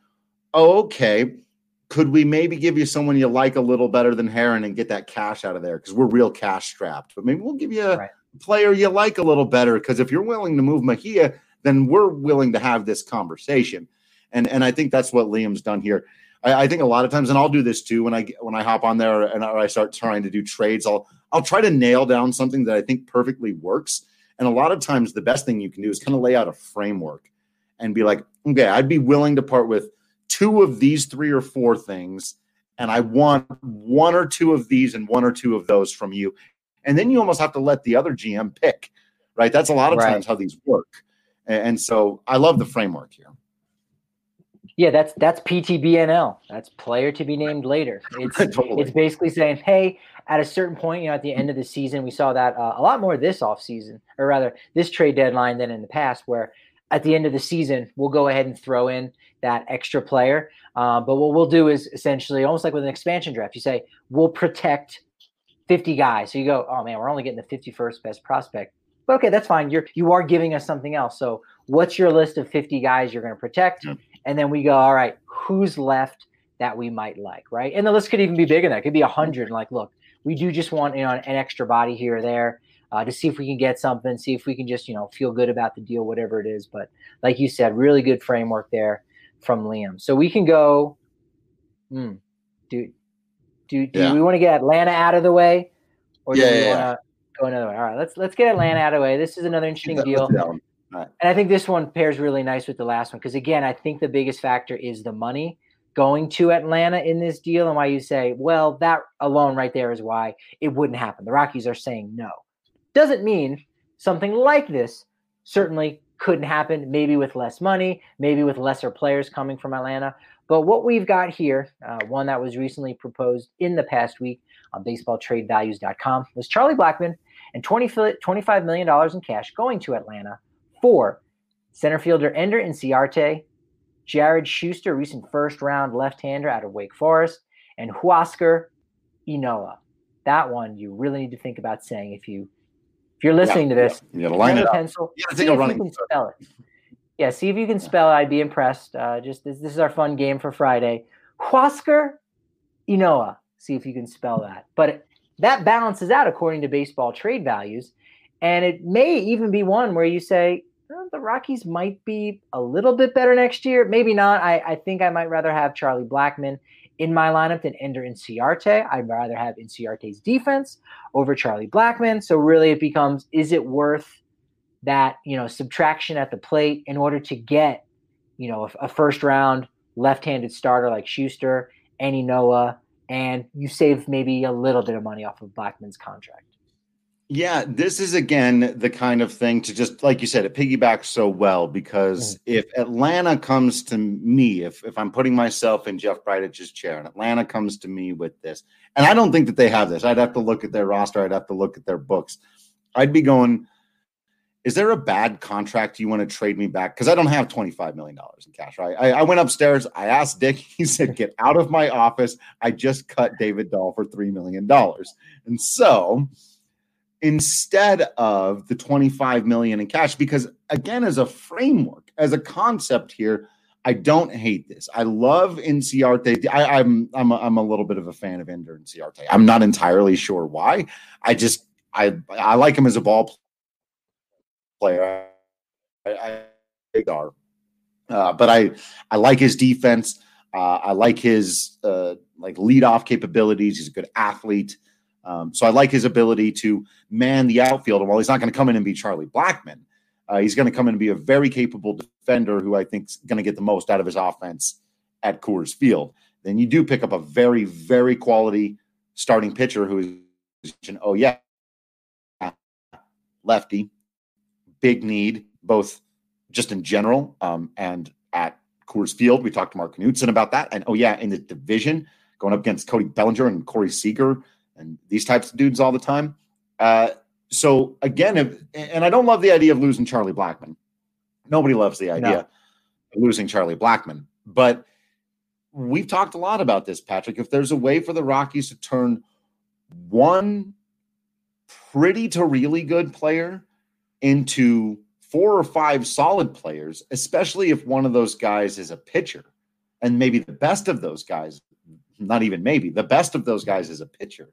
[SPEAKER 5] okay, could we maybe give you someone you like a little better than Herron and get that cash out of there? Because we're real cash strapped. But maybe we'll give you a player you like a little better, because if you're willing to move Mejia, then we're willing to have this conversation. And I think that's what Liam's done here. I think a lot of times, and I'll do this too, when I hop on there and I start trying to do trades, I'll try to nail down something that I think perfectly works. And a lot of times the best thing you can do is kind of lay out a framework and be like, okay, I'd be willing to part with 2 of these 3 or 4 things, and I want 1 or 2 of these and 1 or 2 of those from you. And then you almost have to let the other GM pick, right? That's a lot of times how these work. And so I love the framework here.
[SPEAKER 6] Yeah, that's PTBNL. That's player to be named later. It's totally. It's basically saying, hey, at a certain point, at the end of the season, we saw that a lot more this offseason, or rather this trade deadline than in the past, where at the end of the season, we'll go ahead and throw in that extra player. But what we'll do is essentially almost like with an expansion draft. You say, we'll protect 50 guys. So you go, oh man, we're only getting the 51st best prospect. But okay, that's fine. You are giving us something else. So what's your list of 50 guys you're going to protect? Yeah. And then we go, all right, who's left that we might like, right? And the list could even be bigger than that. It could be 100. Like, look, we do just want an extra body here or there to see if we can get something, see if we can just, feel good about the deal, whatever it is. But like you said, really good framework there from Liam. So we can go, do we want to get Atlanta out of the way? Or do we want to go another way? All right, let's get Atlanta out of the way. This is another interesting deal.
[SPEAKER 5] Right.
[SPEAKER 6] And I think this one pairs really nice with the last one because, again, I think the biggest factor is the money going to Atlanta in this deal, and why you say, well, that alone right there is why it wouldn't happen. The Rockies are saying no. Doesn't mean something like this certainly couldn't happen, maybe with less money, maybe with lesser players coming from Atlanta. But what we've got here, one that was recently proposed in the past week on baseballtradevalues.com, was Charlie Blackmon and $25 million in cash going to Atlanta for center fielder Ender Inciarte, Jared Schuster, recent first-round left-hander out of Wake Forest, and Huascar Ynoa. That one you really need to think about saying if you're listening to this.
[SPEAKER 5] You gotta line it up.
[SPEAKER 6] Pencil, see if you can spell it. Yeah, see if you can spell it. I'd be impressed. Just this is our fun game for Friday. Huascar Ynoa. See if you can spell that. But that balances out according to baseball trade values. And it may even be one where you say, the Rockies might be a little bit better next year. Maybe not. I think I might rather have Charlie Blackmon in my lineup than Ender Inciarte. I'd rather have Inciarte's defense over Charlie Blackmon. So really it becomes, is it worth that, subtraction at the plate in order to get, a first round left-handed starter like Schuster and Ynoa, and you save maybe a little bit of money off of Blackmon's contract.
[SPEAKER 5] Yeah, this is, again, the kind of thing to just, like you said, it piggybacks so well because if Atlanta comes to me, if I'm putting myself in Jeff Bridic's chair and Atlanta comes to me with this, and I don't think that they have this. I'd have to look at their roster. I'd have to look at their books. I'd be going, is there a bad contract you want to trade me back? Because I don't have $25 million in cash, right? I went upstairs. I asked Dick. He said, get out of my office. I just cut David Dahl for $3 million. And so instead of the $25 million in cash, because again, as a framework, as a concept here, I don't hate this. I love Inciarte. I'm a little bit of a fan of Ender Inciarte. I'm not entirely sure why. I like him as a ball player. But I like his defense. I like his leadoff capabilities. He's a good athlete. So I like his ability to man the outfield. And while he's not going to come in and be Charlie Blackmon, he's going to come in and be a very capable defender who I think is going to get the most out of his offense at Coors Field. Then you do pick up a very, very quality starting pitcher who is, lefty, big need, both just in general and at Coors Field. We talked to Mark Knudsen about that. And, in the division, going up against Cody Bellinger and Corey Seager and these types of dudes all the time. So again, and I don't love the idea of losing Charlie Blackmon. Nobody loves the idea of losing Charlie Blackmon. But we've talked a lot about this, Patrick. If there's a way for the Rockies to turn one pretty to really good player into 4 or 5 solid players, especially if one of those guys is a pitcher, and maybe the best of those guys, not even maybe, the best of those guys is a pitcher,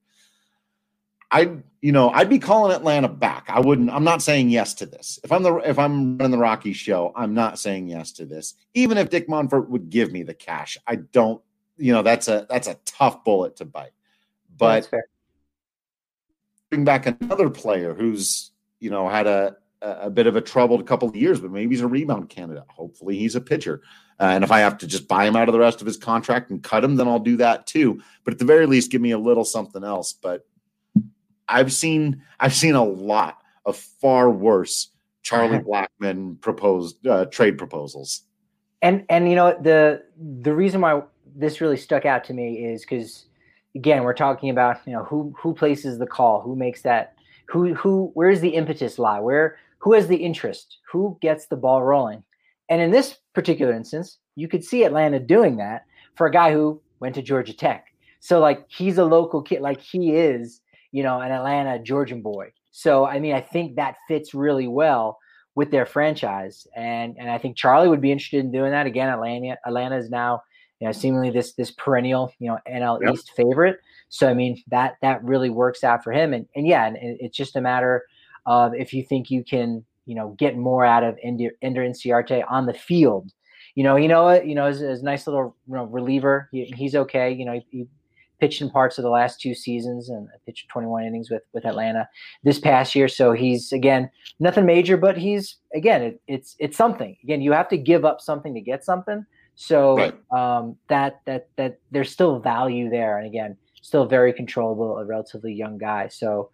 [SPEAKER 5] I'd be calling Atlanta back. I'm not saying yes to this. If I'm running the Rockies show, I'm not saying yes to this. Even if Dick Monfort would give me the cash, I don't, that's a tough bullet to bite. But
[SPEAKER 6] that's fair.
[SPEAKER 5] Bring back another player who's, had a bit of a troubled couple of years, but maybe he's a rebound candidate. Hopefully he's a pitcher. And if I have to just buy him out of the rest of his contract and cut him, then I'll do that too. But at the very least, give me a little something else. But I've seen a lot of far worse Charlie Blackmon proposed trade proposals.
[SPEAKER 6] And the reason why this really stuck out to me is because, again, we're talking about who places the call, who makes that, where's the impetus lie, who has the interest, who gets the ball rolling. And in this particular instance, you could see Atlanta doing that for a guy who went to Georgia Tech. So he's a local kid, he is, an Atlanta Georgian boy. So, I think that fits really well with their franchise. And I think Charlie would be interested in doing that. Again, Atlanta is now, seemingly this perennial, NL East favorite. So, that really works out for him. And it's just a matter of if you think you can, get more out of Ender Inciarte on the field. As a nice little reliever, he's okay. He pitched in parts of the last 2 seasons and pitched 21 innings with Atlanta this past year. So he's, again, nothing major, but he's, again, it's something. Again, you have to give up something to get something. So
[SPEAKER 5] Right.
[SPEAKER 6] that there's still value there. And again, still very controllable, a relatively young guy. So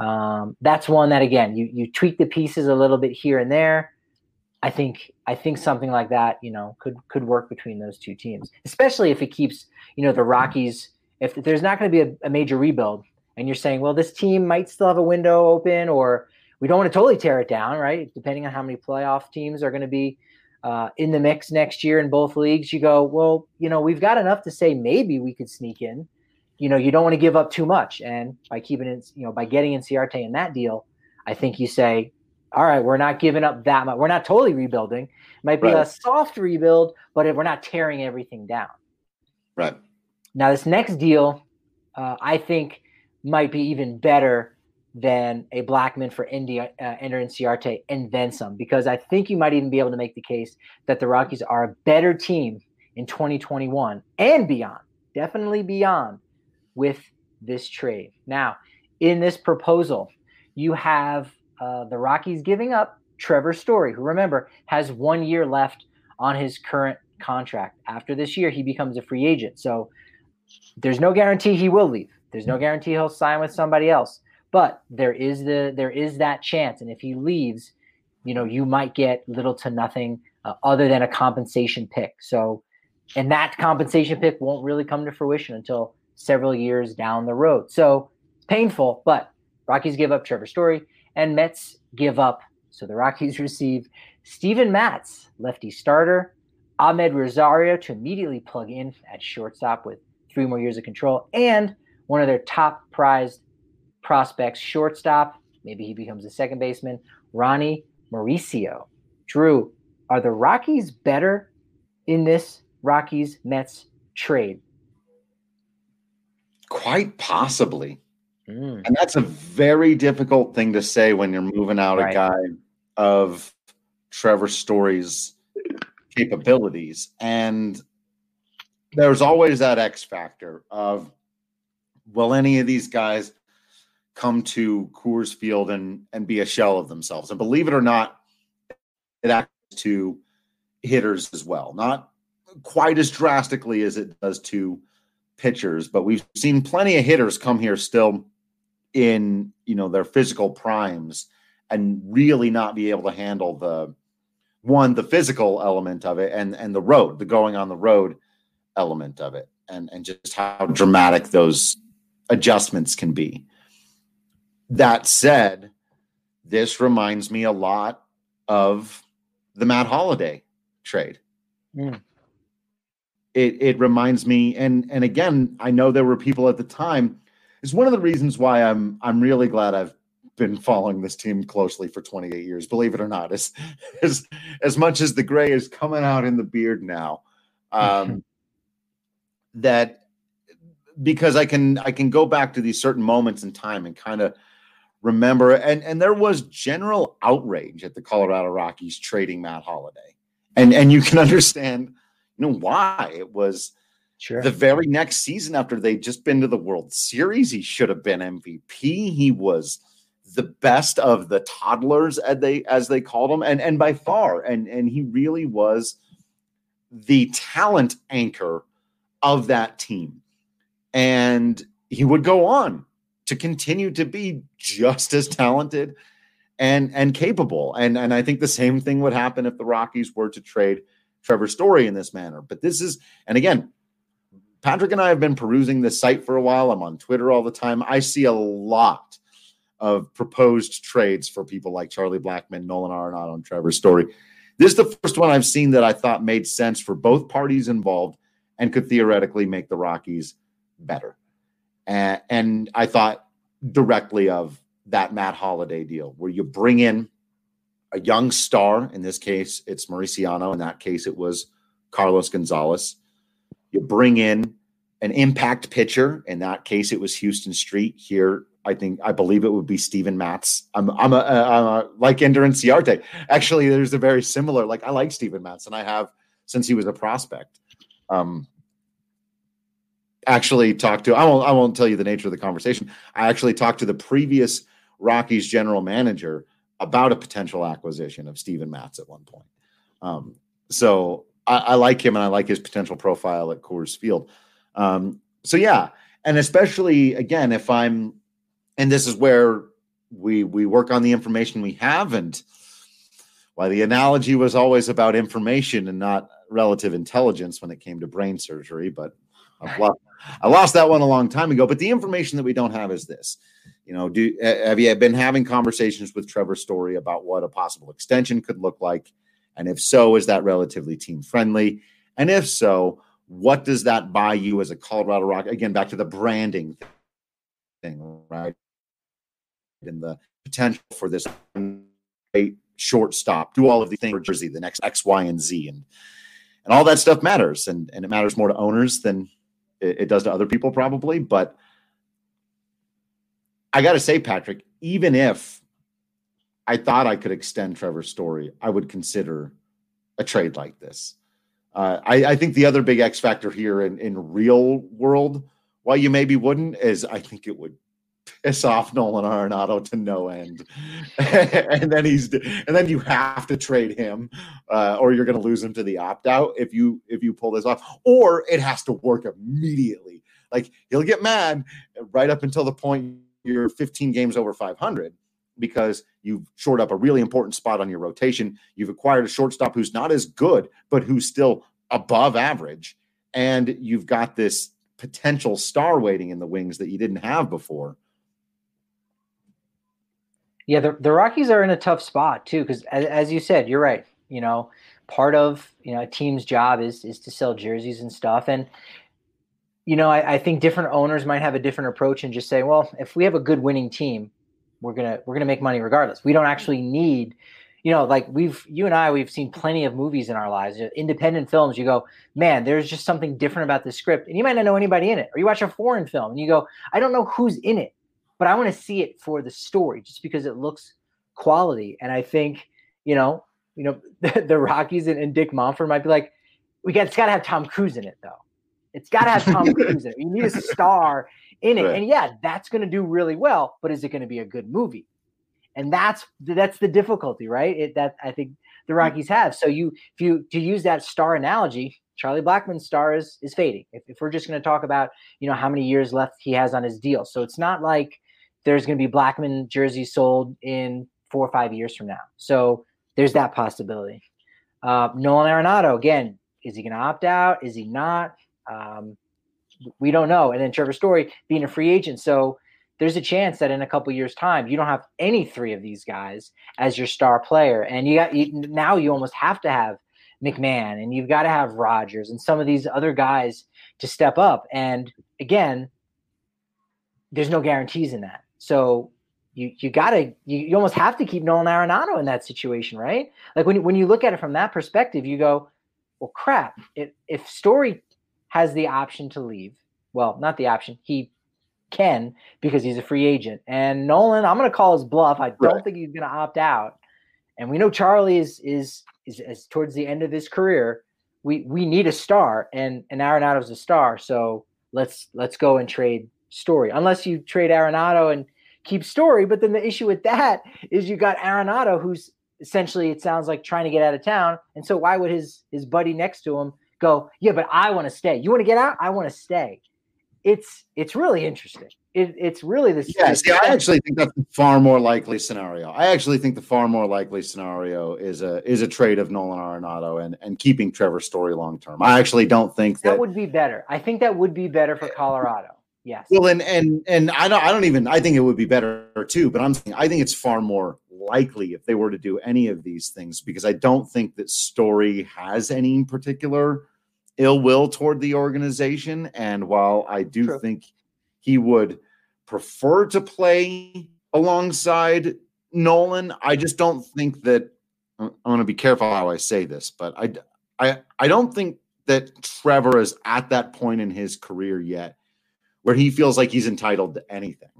[SPEAKER 6] that's one that, again, you tweak the pieces a little bit here and there. I think something like that, could work between those two teams, especially if it keeps, the Rockies, if there's not going to be a major rebuild and you're saying, well, this team might still have a window open, or we don't want to totally tear it down, right? Depending on how many playoff teams are going to be in the mix next year in both leagues, you go, well, we've got enough to say maybe we could sneak in. You don't want to give up too much. And by keeping it, by getting Inciarte in that deal, I think you say, all right, we're not giving up that much. We're not totally rebuilding. It might be a soft rebuild, but we're not tearing everything down.
[SPEAKER 5] Right.
[SPEAKER 6] Now, this next deal, I think, might be even better than a Blackmon for Ender Inciarte and then some, because I think you might even be able to make the case that the Rockies are a better team in 2021 and beyond, definitely beyond, with this trade. Now, in this proposal, you have the Rockies giving up Trevor Story, who, remember, has 1 year left on his current contract. After this year, he becomes a free agent. So there's no guarantee he will leave. There's no guarantee he'll sign with somebody else. But there is that chance. And if he leaves, you might get little to nothing other than a compensation pick. So, and that compensation pick won't really come to fruition until several years down the road. So it's painful, but Rockies give up Trevor Story. And Mets give up. So the Rockies receive Steven Matz, lefty starter, Ahmed Rosario to immediately plug in at shortstop with 3 more years of control, and one of their top prized prospects, shortstop, maybe he becomes a second baseman, Ronnie Mauricio. Drew, are the Rockies better in this Rockies-Mets trade?
[SPEAKER 5] Quite possibly. And that's a very difficult thing to say when you're moving out a guy of Trevor Story's capabilities. And there's always that X factor of, will any of these guys come to Coors Field and be a shell of themselves? And believe it or not, it acts to hitters as well. Not quite as drastically as it does to pitchers, but we've seen plenty of hitters come here still in their physical primes and really not be able to handle the physical element of it and the going on the road element of it and just how dramatic those adjustments can be. That said, this reminds me a lot of the Matt Holliday trade. It reminds me, and again, I know there were people at the time. It's one of the reasons why I'm really glad I've been following this team closely for 28 years. Believe it or not, as much as the gray is coming out in the beard now, that because I can go back to these certain moments in time and kind of remember. And there was general outrage at the Colorado Rockies trading Matt Holliday, and you can understand, why. It was. Sure. The very next season after they'd just been to the World Series, he should have been MVP. He was the best of the toddlers, as they called him, and by far. And he really was the talent anchor of that team. And he would go on to continue to be just as talented and capable. And I think the same thing would happen if the Rockies were to trade Trevor Story in this manner. But this is, and again, Patrick and I have been perusing this site for a while. I'm on Twitter all the time. I see a lot of proposed trades for people like Charlie Blackmon, Nolan Arenado, and Trevor Story. This is the first one I've seen that I thought made sense for both parties involved and could theoretically make the Rockies better. And I thought directly of that Matt Holliday deal where you bring in a young star. In this case, it's Mauriciano. In that case, it was Carlos Gonzalez. You bring in an impact pitcher. In that case, it was Houston Street. Here, I believe it would be Steven Matz. I'm like Ender Inciarte. Actually, there's a very similar. I like Steven Matz, and I have since he was a prospect. actually talked to, I won't tell you the nature of the conversation. I actually talked to the previous Rockies general manager about a potential acquisition of Steven Matz at one point. So I like him, and I like his potential profile at Coors Field. So yeah. And especially again, and this is where we work on the information we have, and why the analogy was always about information and not relative intelligence when it came to brain surgery, but I lost that one a long time ago. But the information that we don't have is this. Have you been having conversations with Trevor Story about what a possible extension could look like? And if so, is that relatively team friendly? And if so, what does that buy you as a Colorado Rock? Again, back to the branding thing, right? And the potential for this shortstop, do all of these things for Jersey, the next X, Y, and Z. And all that stuff matters. And it matters more to owners than it does to other people probably. But I got to say, Patrick, even if I thought I could extend Trevor's Story, I would consider a trade like this. I think the other big X factor here in real world, why you maybe wouldn't, is I think it would piss off Nolan Arenado to no end. and then you have to trade him, or you're going to lose him to the opt-out if you pull this off, or it has to work immediately. Like, he'll get mad right up until the point you're 15 games over 500 because you've shored up a really important spot on your rotation. You've acquired a shortstop who's not as good, but who's still above average. And you've got this potential star waiting in the wings that you didn't have before.
[SPEAKER 6] Yeah, the Rockies are in a tough spot too, because as you said, you're right. Part of a team's job is to sell jerseys and stuff. And I think different owners might have a different approach and just say, well, if we have a good winning team, we're gonna make money regardless. We don't actually need, like you and I, we've seen plenty of movies in our lives, independent films. You go, man, there's just something different about this script, and you might not know anybody in it. Or you watch a foreign film and you go, I don't know who's in it, but I want to see it for the story, just because it looks quality. And I think, the Rockies and Dick Monfort might be like, it's got to have Tom Cruise in it, though. It's got to have Tom Cruise in it. You need a star in it. Right. And yeah, that's going to do really well, but is it going to be a good movie? And that's the difficulty, right? That I think the Rockies have. So to use that star analogy, Charlie Blackmon's star is fading. If we're just going to talk about, how many years left he has on his deal. So it's not like there's going to be Blackmon jerseys sold in 4 or 5 years from now. So there's that possibility. Nolan Arenado, again, is he going to opt out? Is he not? We don't know. And then Trevor Story being a free agent. So there's a chance that in a couple years' time, you don't have any three of these guys as your star player. And now you almost have to have McMahon, and you've got to have Rogers and some of these other guys to step up. And again, there's no guarantees in that. So you almost have to keep Nolan Arenado in that situation, right? Like when you look at it from that perspective, you go, well, crap. If Story has the option to leave, well, not the option, he can, because he's a free agent. And Nolan, I'm going to call his bluff. I don't think he's going to opt out. And we know Charlie is towards the end of his career. We need a star, and Arenado's a star. So let's go and trade Story, unless you trade Arenado and keep Story. But then the issue with that is you got Arenado, who's essentially, it sounds like, trying to get out of town. And so why would his buddy next to him go, yeah, but I want to stay. You want to get out? I want to stay. It's really interesting. It's really this.
[SPEAKER 5] Yeah, see, I actually think that's the far more likely scenario. I actually think the far more likely scenario is a trade of Nolan Arenado and keeping Trevor Story long term. I actually don't think that
[SPEAKER 6] would be better. I think that would be better for Colorado. Yes.
[SPEAKER 5] Well, and I think it would be better too, but I think it's far more likely if they were to do any of these things, because I don't think that Story has any particular ill will toward the organization. And while I do think he would prefer to play alongside Nolan, I just don't think that – I'm going to be careful how I say this, but I don't think that Trevor is at that point in his career yet where he feels like he's entitled to anything,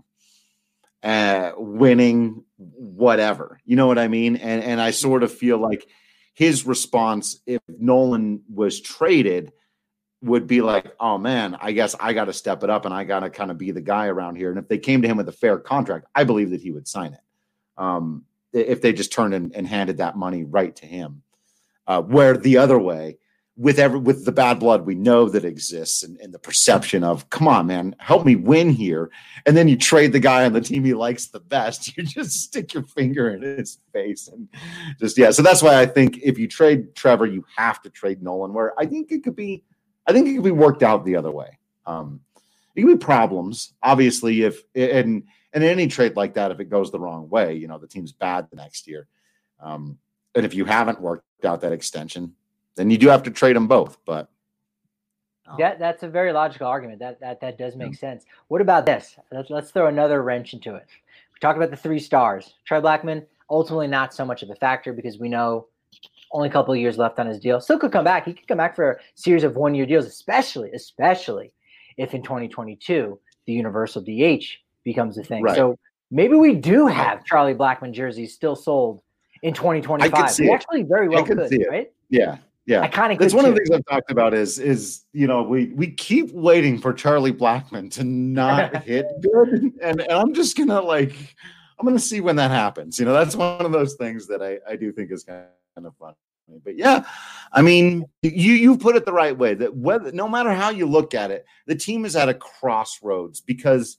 [SPEAKER 5] winning, whatever. You know what I mean? And I sort of feel like his response, if Nolan was traded, would be like, oh man, I guess I got to step it up and I got to kind of be the guy around here. And if they came to him with a fair contract, I believe that he would sign it. If they just turned and handed that money right to him, where the other way, with the bad blood we know that exists and the perception of, come on, man, help me win here. And then you trade the guy on the team he likes the best. You just stick your finger in his face and just, yeah. So that's why I think if you trade Trevor, you have to trade Nolan, where I think it could be worked out the other way. It could be problems, obviously, and any trade like that, if it goes the wrong way, the team's bad the next year. And if you haven't worked out that extension, then you do have to trade them both. But
[SPEAKER 6] that's a very logical argument. That does make sense. What about this? Let's throw another wrench into it. We talked about the 3 stars. Trey Blackmon, ultimately not so much of a factor because we know only a couple of years left on his deal. Still could come back. He could come back for a series of 1-year deals, especially if in 2022 the universal DH becomes a thing. Right. So maybe we do have Charlie Blackmon jerseys still sold in 2025. We actually very well could, right?
[SPEAKER 5] Yeah. Yeah,
[SPEAKER 6] I kind of.
[SPEAKER 5] That's one of the things I've talked about is we keep waiting for Charlie Blackmon to not hit good, and I'm just gonna I'm gonna see when that happens. That's one of those things that I do think is kind of fun. But yeah, I mean, you put it the right way. That no matter how you look at it, the team is at a crossroads because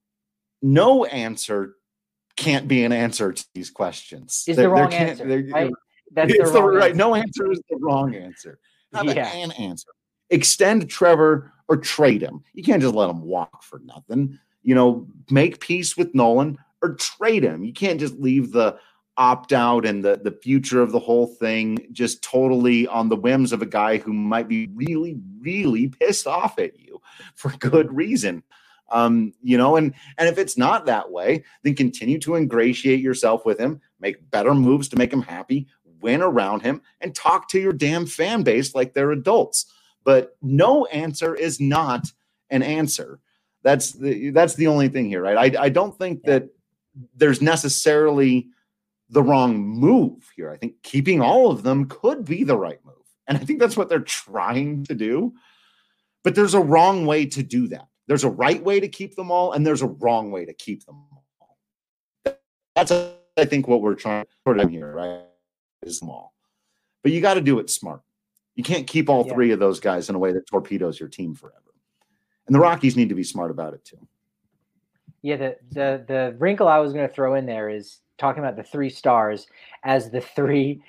[SPEAKER 5] no answer can't be an answer to these questions.
[SPEAKER 6] Is the wrong answer, right? That's the wrong answer.
[SPEAKER 5] No answer is the wrong answer. Not an answer. Extend Trevor or trade him. You can't just let him walk for nothing. Make peace with Nolan or trade him. You can't just leave the opt-out and the future of the whole thing just totally on the whims of a guy who might be really, really pissed off at you for good reason. And if it's not that way, then continue to ingratiate yourself with him, make better moves to make him happy, win around him, and talk to your damn fan base like they're adults. But no answer is not an answer. That's the only thing here, right? I don't think that there's necessarily the wrong move here. I think keeping all of them could be the right move. And I think that's what they're trying to do. But there's a wrong way to do that. There's a right way to keep them all, and there's a wrong way to keep them all. That's, I think, what we're trying to put in here, right? Is small, but you got to do it smart. You can't keep all 3 of those guys in a way that torpedoes your team forever. And the Rockies need to be smart about it too.
[SPEAKER 6] Yeah, the wrinkle I was going to throw in there is talking about the 3 stars as the three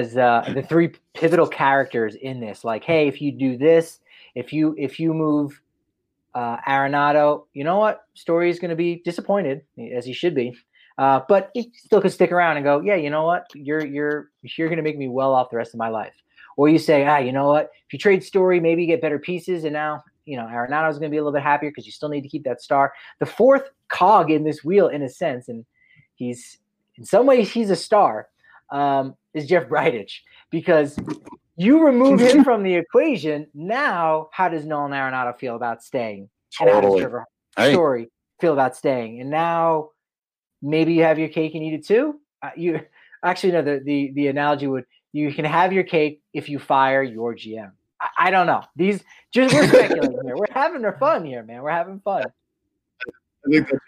[SPEAKER 6] pivotal characters in this. Like, hey, if you do this, if you move Arenado, you know what? Story is going to be disappointed, as he should be. But he still could stick around and go, yeah, you know what? You're going to make me well off the rest of my life. Or you say, you know what? If you trade Story, maybe you get better pieces. And now, Arenado's going to be a little bit happier because you still need to keep that star. The 4th cog in this wheel, in a sense, and he's in some ways he's a star, is Jeff Bridich, because you remove him from the equation. Now, how does Nolan Arenado feel about staying?
[SPEAKER 5] Totally.
[SPEAKER 6] And how does Trevor Story feel about staying? And now, maybe you have your cake and eat it too. The analogy would, you can have your cake if you fire your GM. I don't know. We're speculating here. We're having fun here, man. We're having fun.
[SPEAKER 5] I think that's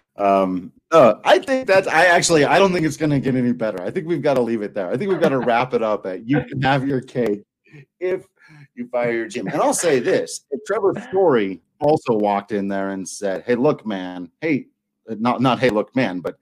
[SPEAKER 5] right. I don't think it's going to get any better. I think we've got to leave it there. I think we've got to wrap it up at you can have your cake if you fire your GM. And I'll say this: if Trevor Story also walked in there and said, "Hey, look, man. Hey." Not hey, look, man, but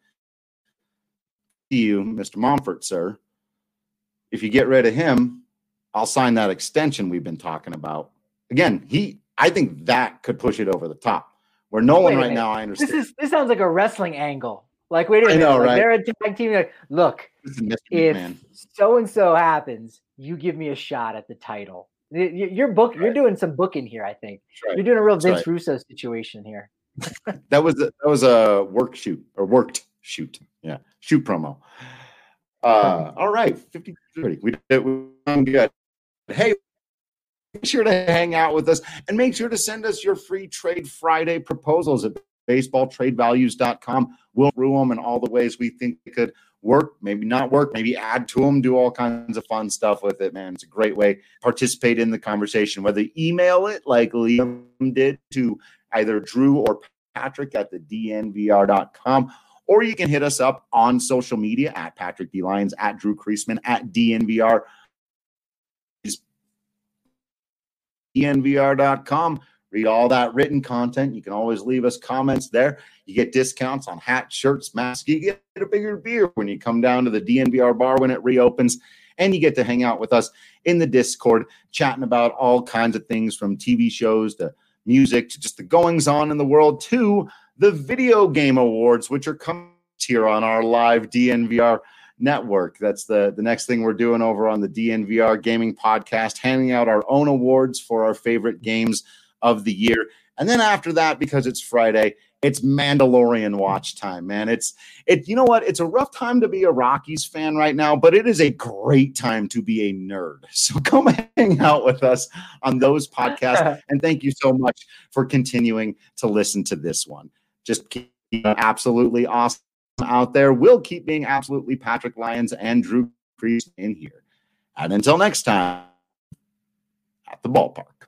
[SPEAKER 5] you, Mr. Monfort, sir, if you get rid of him, I'll sign that extension we've been talking about. Again, I think that could push it over the top. Where Nolan right now, I understand.
[SPEAKER 6] This sounds like a wrestling angle. Like, wait a minute. I know, right? They're a tag team. Like, look, if so-and-so happens, you give me a shot at the title. You're doing some booking here, I think. Right. You're doing a real Vince Russo situation here.
[SPEAKER 5] That was a worked shoot. Yeah. Shoot promo. All right. 50-30. We did good. Hey, make sure to hang out with us and make sure to send us your free Trade Friday proposals at baseballtradevalues.com. We'll through them in all the ways we think they could work, maybe not work, maybe add to them, do all kinds of fun stuff with it, man. It's a great way to participate in the conversation, whether you email it like Liam did to either Drew or Patrick at the DNVR.com, or you can hit us up on social media at Patrick D. Lyons, at Drew Creasman, at DNVR. DNVR.com. Read all that written content. You can always leave us comments there. You get discounts on hats, shirts, masks. You get a bigger beer when you come down to the DNVR bar when it reopens. And you get to hang out with us in the Discord, chatting about all kinds of things from TV shows to music to just the goings on in the world to the video game awards, which are coming here on our live DNVR network. That's the next thing we're doing over on the DNVR Gaming Podcast, handing out our own awards for our favorite games of the year. And then after that, because it's Friday, it's Mandalorian watch time, man. You know what? It's a rough time to be a Rockies fan right now, but it is a great time to be a nerd. So come hang out with us on those podcasts. And thank you so much for continuing to listen to this one. Just keep absolutely awesome out there. We'll keep being absolutely Patrick Lyons and Drew Creasman in here. And until next time, at the ballpark.